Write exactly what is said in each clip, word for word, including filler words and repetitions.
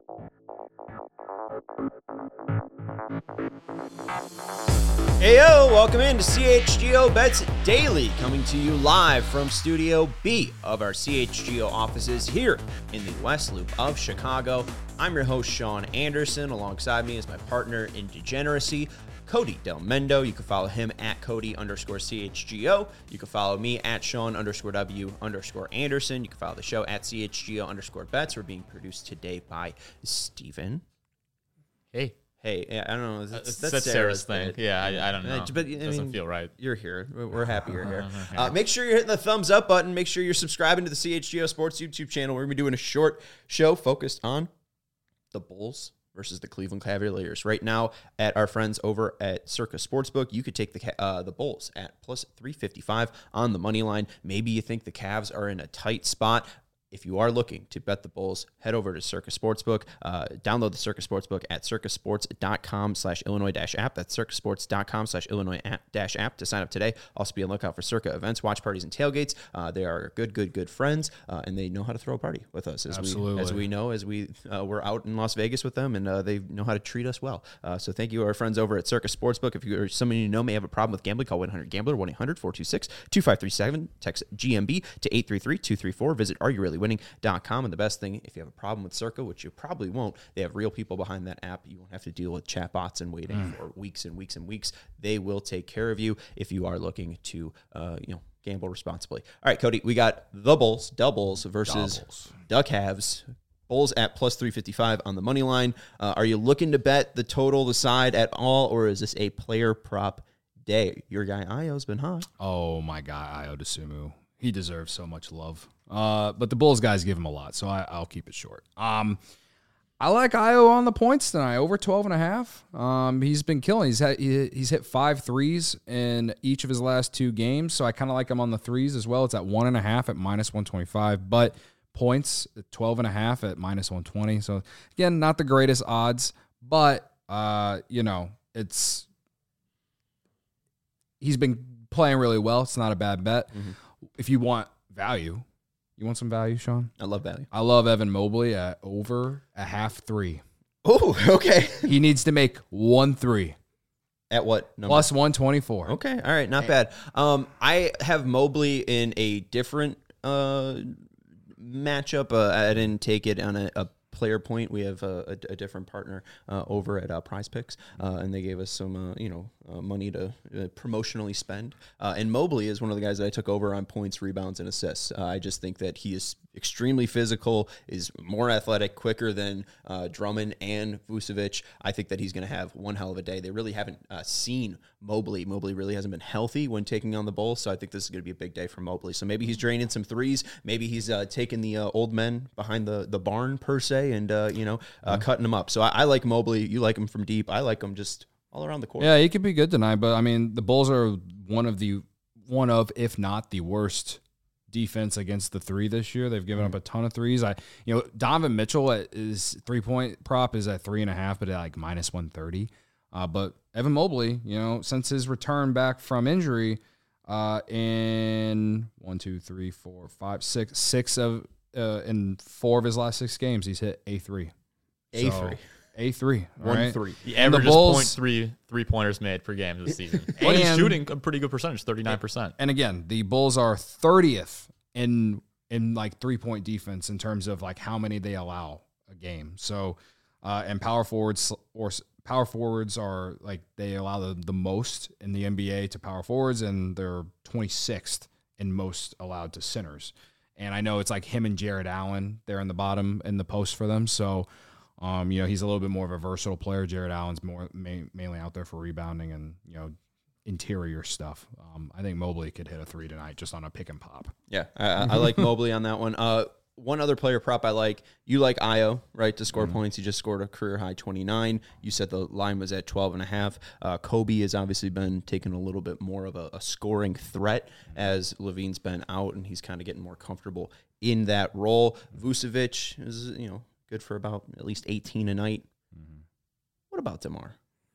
Heyo, welcome in to C H G O Bets Daily, coming to you live from Studio B of our C H G O offices here in the West Loop of Chicago. I'm your host, Sean Anderson. Alongside me is my partner in degeneracy, Cody Del Mendo. You can follow him at Cody underscore C H G O. You can follow me at Sean underscore W underscore Anderson. You can follow the show at C H G O underscore Bets. We're being produced today by Steven. Hey. Hey, I don't know. That's, that's, that's Sarah's, Sarah's thing. thing. Yeah, I, I don't know. But, I it doesn't mean, feel right. You're here. We're happy you're here. Uh, make sure you're hitting the thumbs up button. Make sure you're subscribing to the C H G O Sports YouTube channel. We're going to be doing a short show focused on the Bulls versus the Cleveland Cavaliers. Right now, at our friends over at Circa Sportsbook, you could take the uh, the Bulls at plus three fifty-five on the money line. Maybe you think the Cavs are in a tight spot. If you are looking to bet the Bulls, head over to Circa Sportsbook. Uh, download the Circa Sportsbook at circasports.com slash Illinois dash app. That's circasports.com slash Illinois dash app to sign up today. Also be on the lookout for Circa events, watch parties, and tailgates. Uh, they are good, good, good friends, uh, and they know how to throw a party with us. As Absolutely. We, as we know, as we uh, we're out in Las Vegas with them, and uh, they know how to treat us well. Uh, so thank you to our friends over at Circa Sportsbook. If you or someone you know may have a problem with gambling, call one eight hundred gambler, one eight hundred four two six two five three seven. Text G M B to eight three three two three four. Visit Are You Really Winning dot com. And the best thing, if you have a problem with Circa, which you probably won't, they have real people behind that app. You won't have to deal with chatbots and waiting mm. for weeks and weeks and weeks. They will take care of you if you are looking to, uh, you know, gamble responsibly. All right, Cody, we got the Bulls, doubles versus Doubles. the Cavs. Bulls at plus three fifty-five on the money line. Uh, are you looking to bet the total, the side at all, or is this a player prop day? Your guy Ayo's been hot. Oh, my guy, Ayo Dosunmu. He deserves so much love. Uh, but the Bulls guys give him a lot, so I, I'll keep it short. Um, I like Ayo on the points tonight, over twelve and a half. Um, he's been killing. He's had, he, he's hit five threes in each of his last two games, so I kind of like him on the threes as well. It's at one and a half at minus one twenty-five, but points at twelve and a half at minus one twenty. So again, not the greatest odds, but uh, you know, it's he's been playing really well. It's not a bad bet. Mm-hmm. If you want value, you want some value, Sean? I love value. I love Evan Mobley at over a half three. Oh, okay. He needs to make one three. At what number? Plus one twenty-four. Okay, all right, not bad. Um, I have Mobley in a different uh, matchup. Uh, I didn't take it on a, a player point. We have a, a, a different partner uh, over at uh, Prize Picks, uh, and they gave us some, uh, you know, uh, money to uh, promotionally spend. Uh, and Mobley is one of the guys that I took over on points, rebounds, and assists. Uh, I just think that he is extremely physical, is more athletic, quicker than uh, Drummond and Vucevic. I think that he's going to have one hell of a day. They really haven't uh, seen Mobley. Mobley really hasn't been healthy when taking on the Bulls, so I think this is going to be a big day for Mobley. So maybe he's draining some threes. Maybe he's uh, taking the uh, old men behind the, the barn, per se, and, uh, you know, uh, mm-hmm. cutting them up. So I, I like Mobley. You like him from deep. I like him just all around the court. Yeah, he could be good tonight, but, I mean, the Bulls are one of the, one of, if not the worst defense against the three this year. They've given up a ton of threes. I, you know, Donovan Mitchell at his three-point prop is at three and a half, but at like minus one thirty. Uh, but Evan Mobley, you know, since his return back from injury, uh, in one, two, three, four, five, six, six of uh, in four of his last six games, he's hit a three. A so, three. A three. One right? three. He averages Bulls, point three three pointers made per game this season. But he's shooting a pretty good percentage, thirty-nine percent. And again, the Bulls are thirtieth in in like three point defense in terms of like how many they allow a game. So, uh, and power forwards or power forwards are like they allow the, the most in the N B A to power forwards, and they're twenty-sixth in most allowed to centers. And I know it's like him and Jared Allen there in the bottom in the post for them. So, um, you know, he's a little bit more of a versatile player. Jared Allen's more ma- mainly out there for rebounding and, you know, interior stuff. Um, I think Mobley could hit a three tonight just on a pick and pop. Yeah, I, I like Mobley on that one. Uh, one other player prop I like. You like Ayo, right, to score mm-hmm. points. He just scored a career high twenty-nine. You said the line was at twelve and a half. Uh, Kobe has obviously been taking a little bit more of a, a scoring threat as Levine's been out, and he's kind of getting more comfortable in that role. Vucevic is, you know, good for about at least eighteen a night. Mm-hmm. What about DeMar?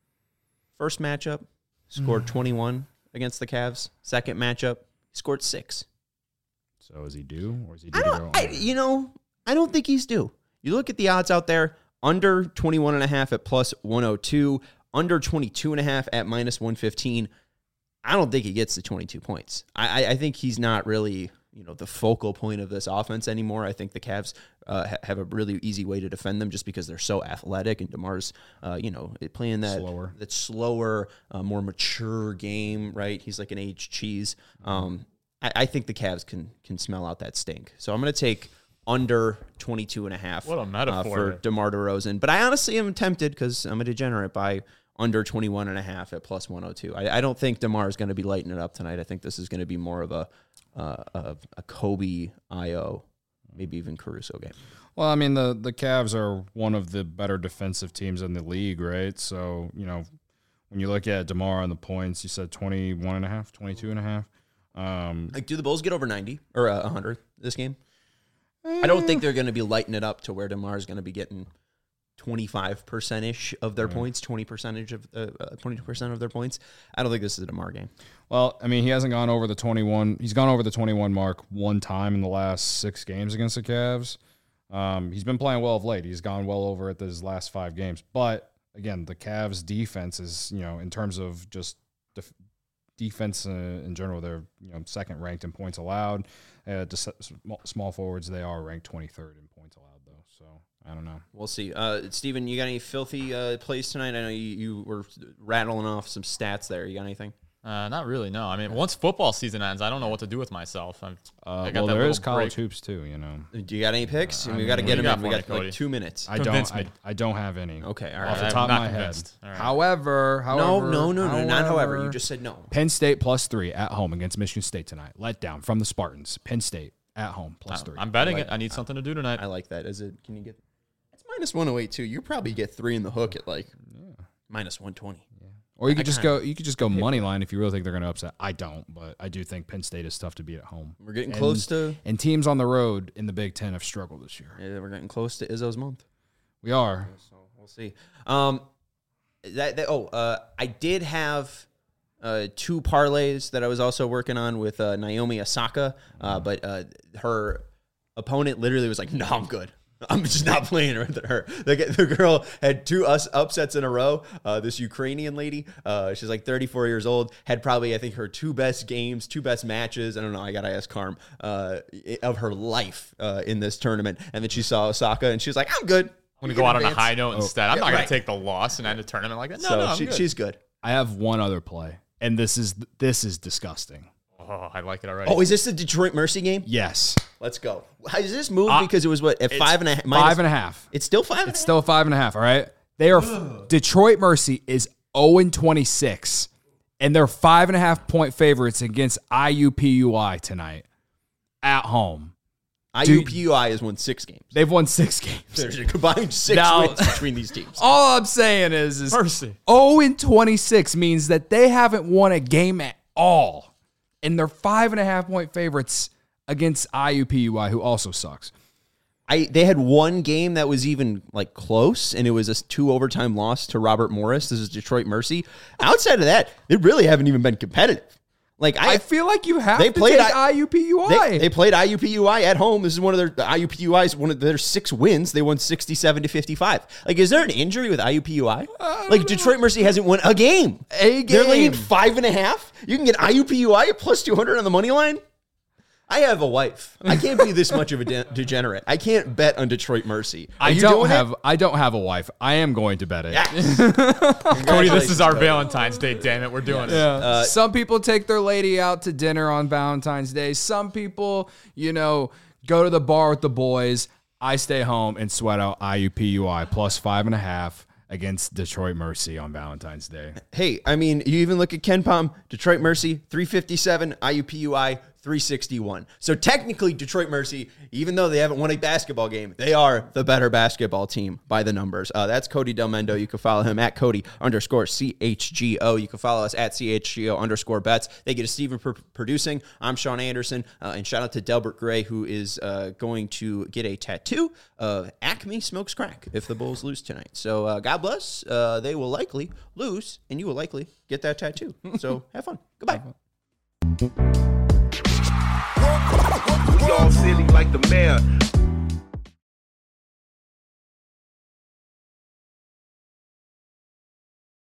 First matchup, scored mm-hmm. twenty-one against the Cavs. Second matchup, he scored six. So is he due, or is he due I to don't, go I, you know, I don't think he's due. You look at the odds out there. under twenty-one and a half at plus one oh two, under twenty-two and a half at minus one fifteen. I don't think he gets the twenty-two points. I, I think he's not really, you know, the focal point of this offense anymore. I think the Cavs uh, ha- have a really easy way to defend them just because they're so athletic, and DeMar's, uh, you know, playing that slower, that slower, uh, more mature game. Right? He's like an aged cheese. Um, I, I think the Cavs can can smell out that stink. So I'm going to take under twenty-two and a half. What a metaphor. Uh, for DeMar DeRozan. But I honestly am tempted because I'm a degenerate by under twenty-one and a half at plus one oh two. I, I don't think DeMar is going to be lighting it up tonight. I think this is going to be more of a uh, a, a Kobe, I O, maybe even Caruso game. Well, I mean, the, the Cavs are one of the better defensive teams in the league, right? So, you know, when you look at DeMar on the points, you said twenty-one and a half, twenty-two and a half. Um, like, do the Bulls get over ninety or uh, one hundred this game? I don't think they're going to be lighting it up to where DeMar is going to be getting twenty-five percent-ish of their yeah. points, twenty percent of uh, twenty percent of their points. I don't think this is a DeMar game. Well, I mean, he hasn't gone over the twenty-one. He's gone over the twenty-one mark one time in the last six games against the Cavs. Um, he's been playing well of late. He's gone well over at his last five games. But, again, the Cavs' defense is, you know, in terms of just def- defense uh, in general, they're, you know, second ranked in points allowed. Uh, just small forwards, they are ranked twenty-third in points allowed, though. So, I don't know. We'll see. Uh, Steven, you got any filthy uh, plays tonight? I know you, you were rattling off some stats there. You got anything? Uh, not really, no. I mean, once football season ends, I don't know what to do with myself. I'm, uh, I got well, that there is college break. hoops, too, you know. Do you got any picks? Uh, we mean, got to get them in. We got Cody? like two minutes. I don't I, I don't have any. Okay, all right. Off the I'm top of not my convinced. head. All right. However, however. No, no, no, however, no, not however. You just said no. Penn State plus three at home against Michigan State tonight. Let down from the Spartans. Penn State at home plus three. I'm betting I like, it. I need something to do tonight. I like that. Is it? Can you get? It's minus one oh eight too. You probably get three in the hook at like yeah. minus one twenty. Yeah. Or you could I just kinda, go. You could just go money line if you really think they're going to upset. I don't, but I do think Penn State is tough to beat at home. We're getting and, close to. And teams on the road in the Big Ten have struggled this year. Yeah, we're getting close to Izzo's month. We are. So we'll see. Um, that, that oh, uh, I did have. Uh, two parlays that I was also working on with uh, Naomi Osaka, uh, but uh, her opponent literally was like, "No, I'm good. I'm just not playing with her." The, the girl had two us upsets in a row. Uh, this Ukrainian lady, uh, she's like thirty-four years old, had probably I think her two best games, two best matches. I don't know. I gotta ask Carm uh, of her life uh, in this tournament, and then she saw Osaka, and she was like, "I'm good. I'm gonna go out on a high note oh. instead. I'm yeah, not gonna right. take the loss and end a tournament like that." No, so no, I'm she, good. she's good. I have one other play, and this is this is disgusting. Oh, I like it already. Oh, is this the Detroit Mercy game? Yes. Let's go. Is this moved Uh, because it was what at five and a half? Five and a half. It's still five. It's still five and a half. All right. They are Detroit Mercy is zero and twenty-six, and they're five and a half point favorites against I U P U I tonight at home. I U P U I has won six games. They've won six games. There's a combined six Now- wins between these teams. All I'm saying is, is Mercy. zero and twenty-six means that they haven't won a game at all, and they're five and a half point favorites against I U P U I, who also sucks. I they had one game that was even like close, and it was a two overtime loss to Robert Morris. This is Detroit Mercy. Outside of that, they really haven't even been competitive. Like I, I feel like you have they to played take I- I U P U I. They, they played I U P U I at home. This is one of their the I U P U I's one of their six wins. They won sixty-seven to fifty-five. Like, is there an injury with I U P U I? Like, Detroit Mercy hasn't won a game. A They're game. laying five and a half. You can get I U P U I at plus two hundred on the money line. I have a wife. I can't be this much of a de- degenerate. I can't bet on Detroit Mercy. Are I you don't doing have. it? I don't have a wife. I am going to bet it. Yes. Cody, this is our Cody. Valentine's Day. Damn it, we're doing Yeah. it. Uh, Some people take their lady out to dinner on Valentine's Day. Some people, you know, go to the bar with the boys. I stay home and sweat out I U P U I plus five and a half against Detroit Mercy on Valentine's Day. Hey, I mean, you even look at Ken Pom, Detroit Mercy, three fifty-seven, I U P U I, three sixty-one. So technically, Detroit Mercy, even though they haven't won a basketball game, they are the better basketball team by the numbers. Uh, that's Cody Del Mendo. You can follow him at Cody underscore C H G O. You can follow us at C H G O underscore bets. They get a Steven pr- producing. I'm Sean Anderson. Uh, and shout out to Delbert Gray, who is uh, going to get a tattoo of Acme Smokes Crack if the Bulls lose tonight. So uh, God bless. Uh, they will likely lose, and you will likely get that tattoo. So have fun. Goodbye. We all silly like the mayor.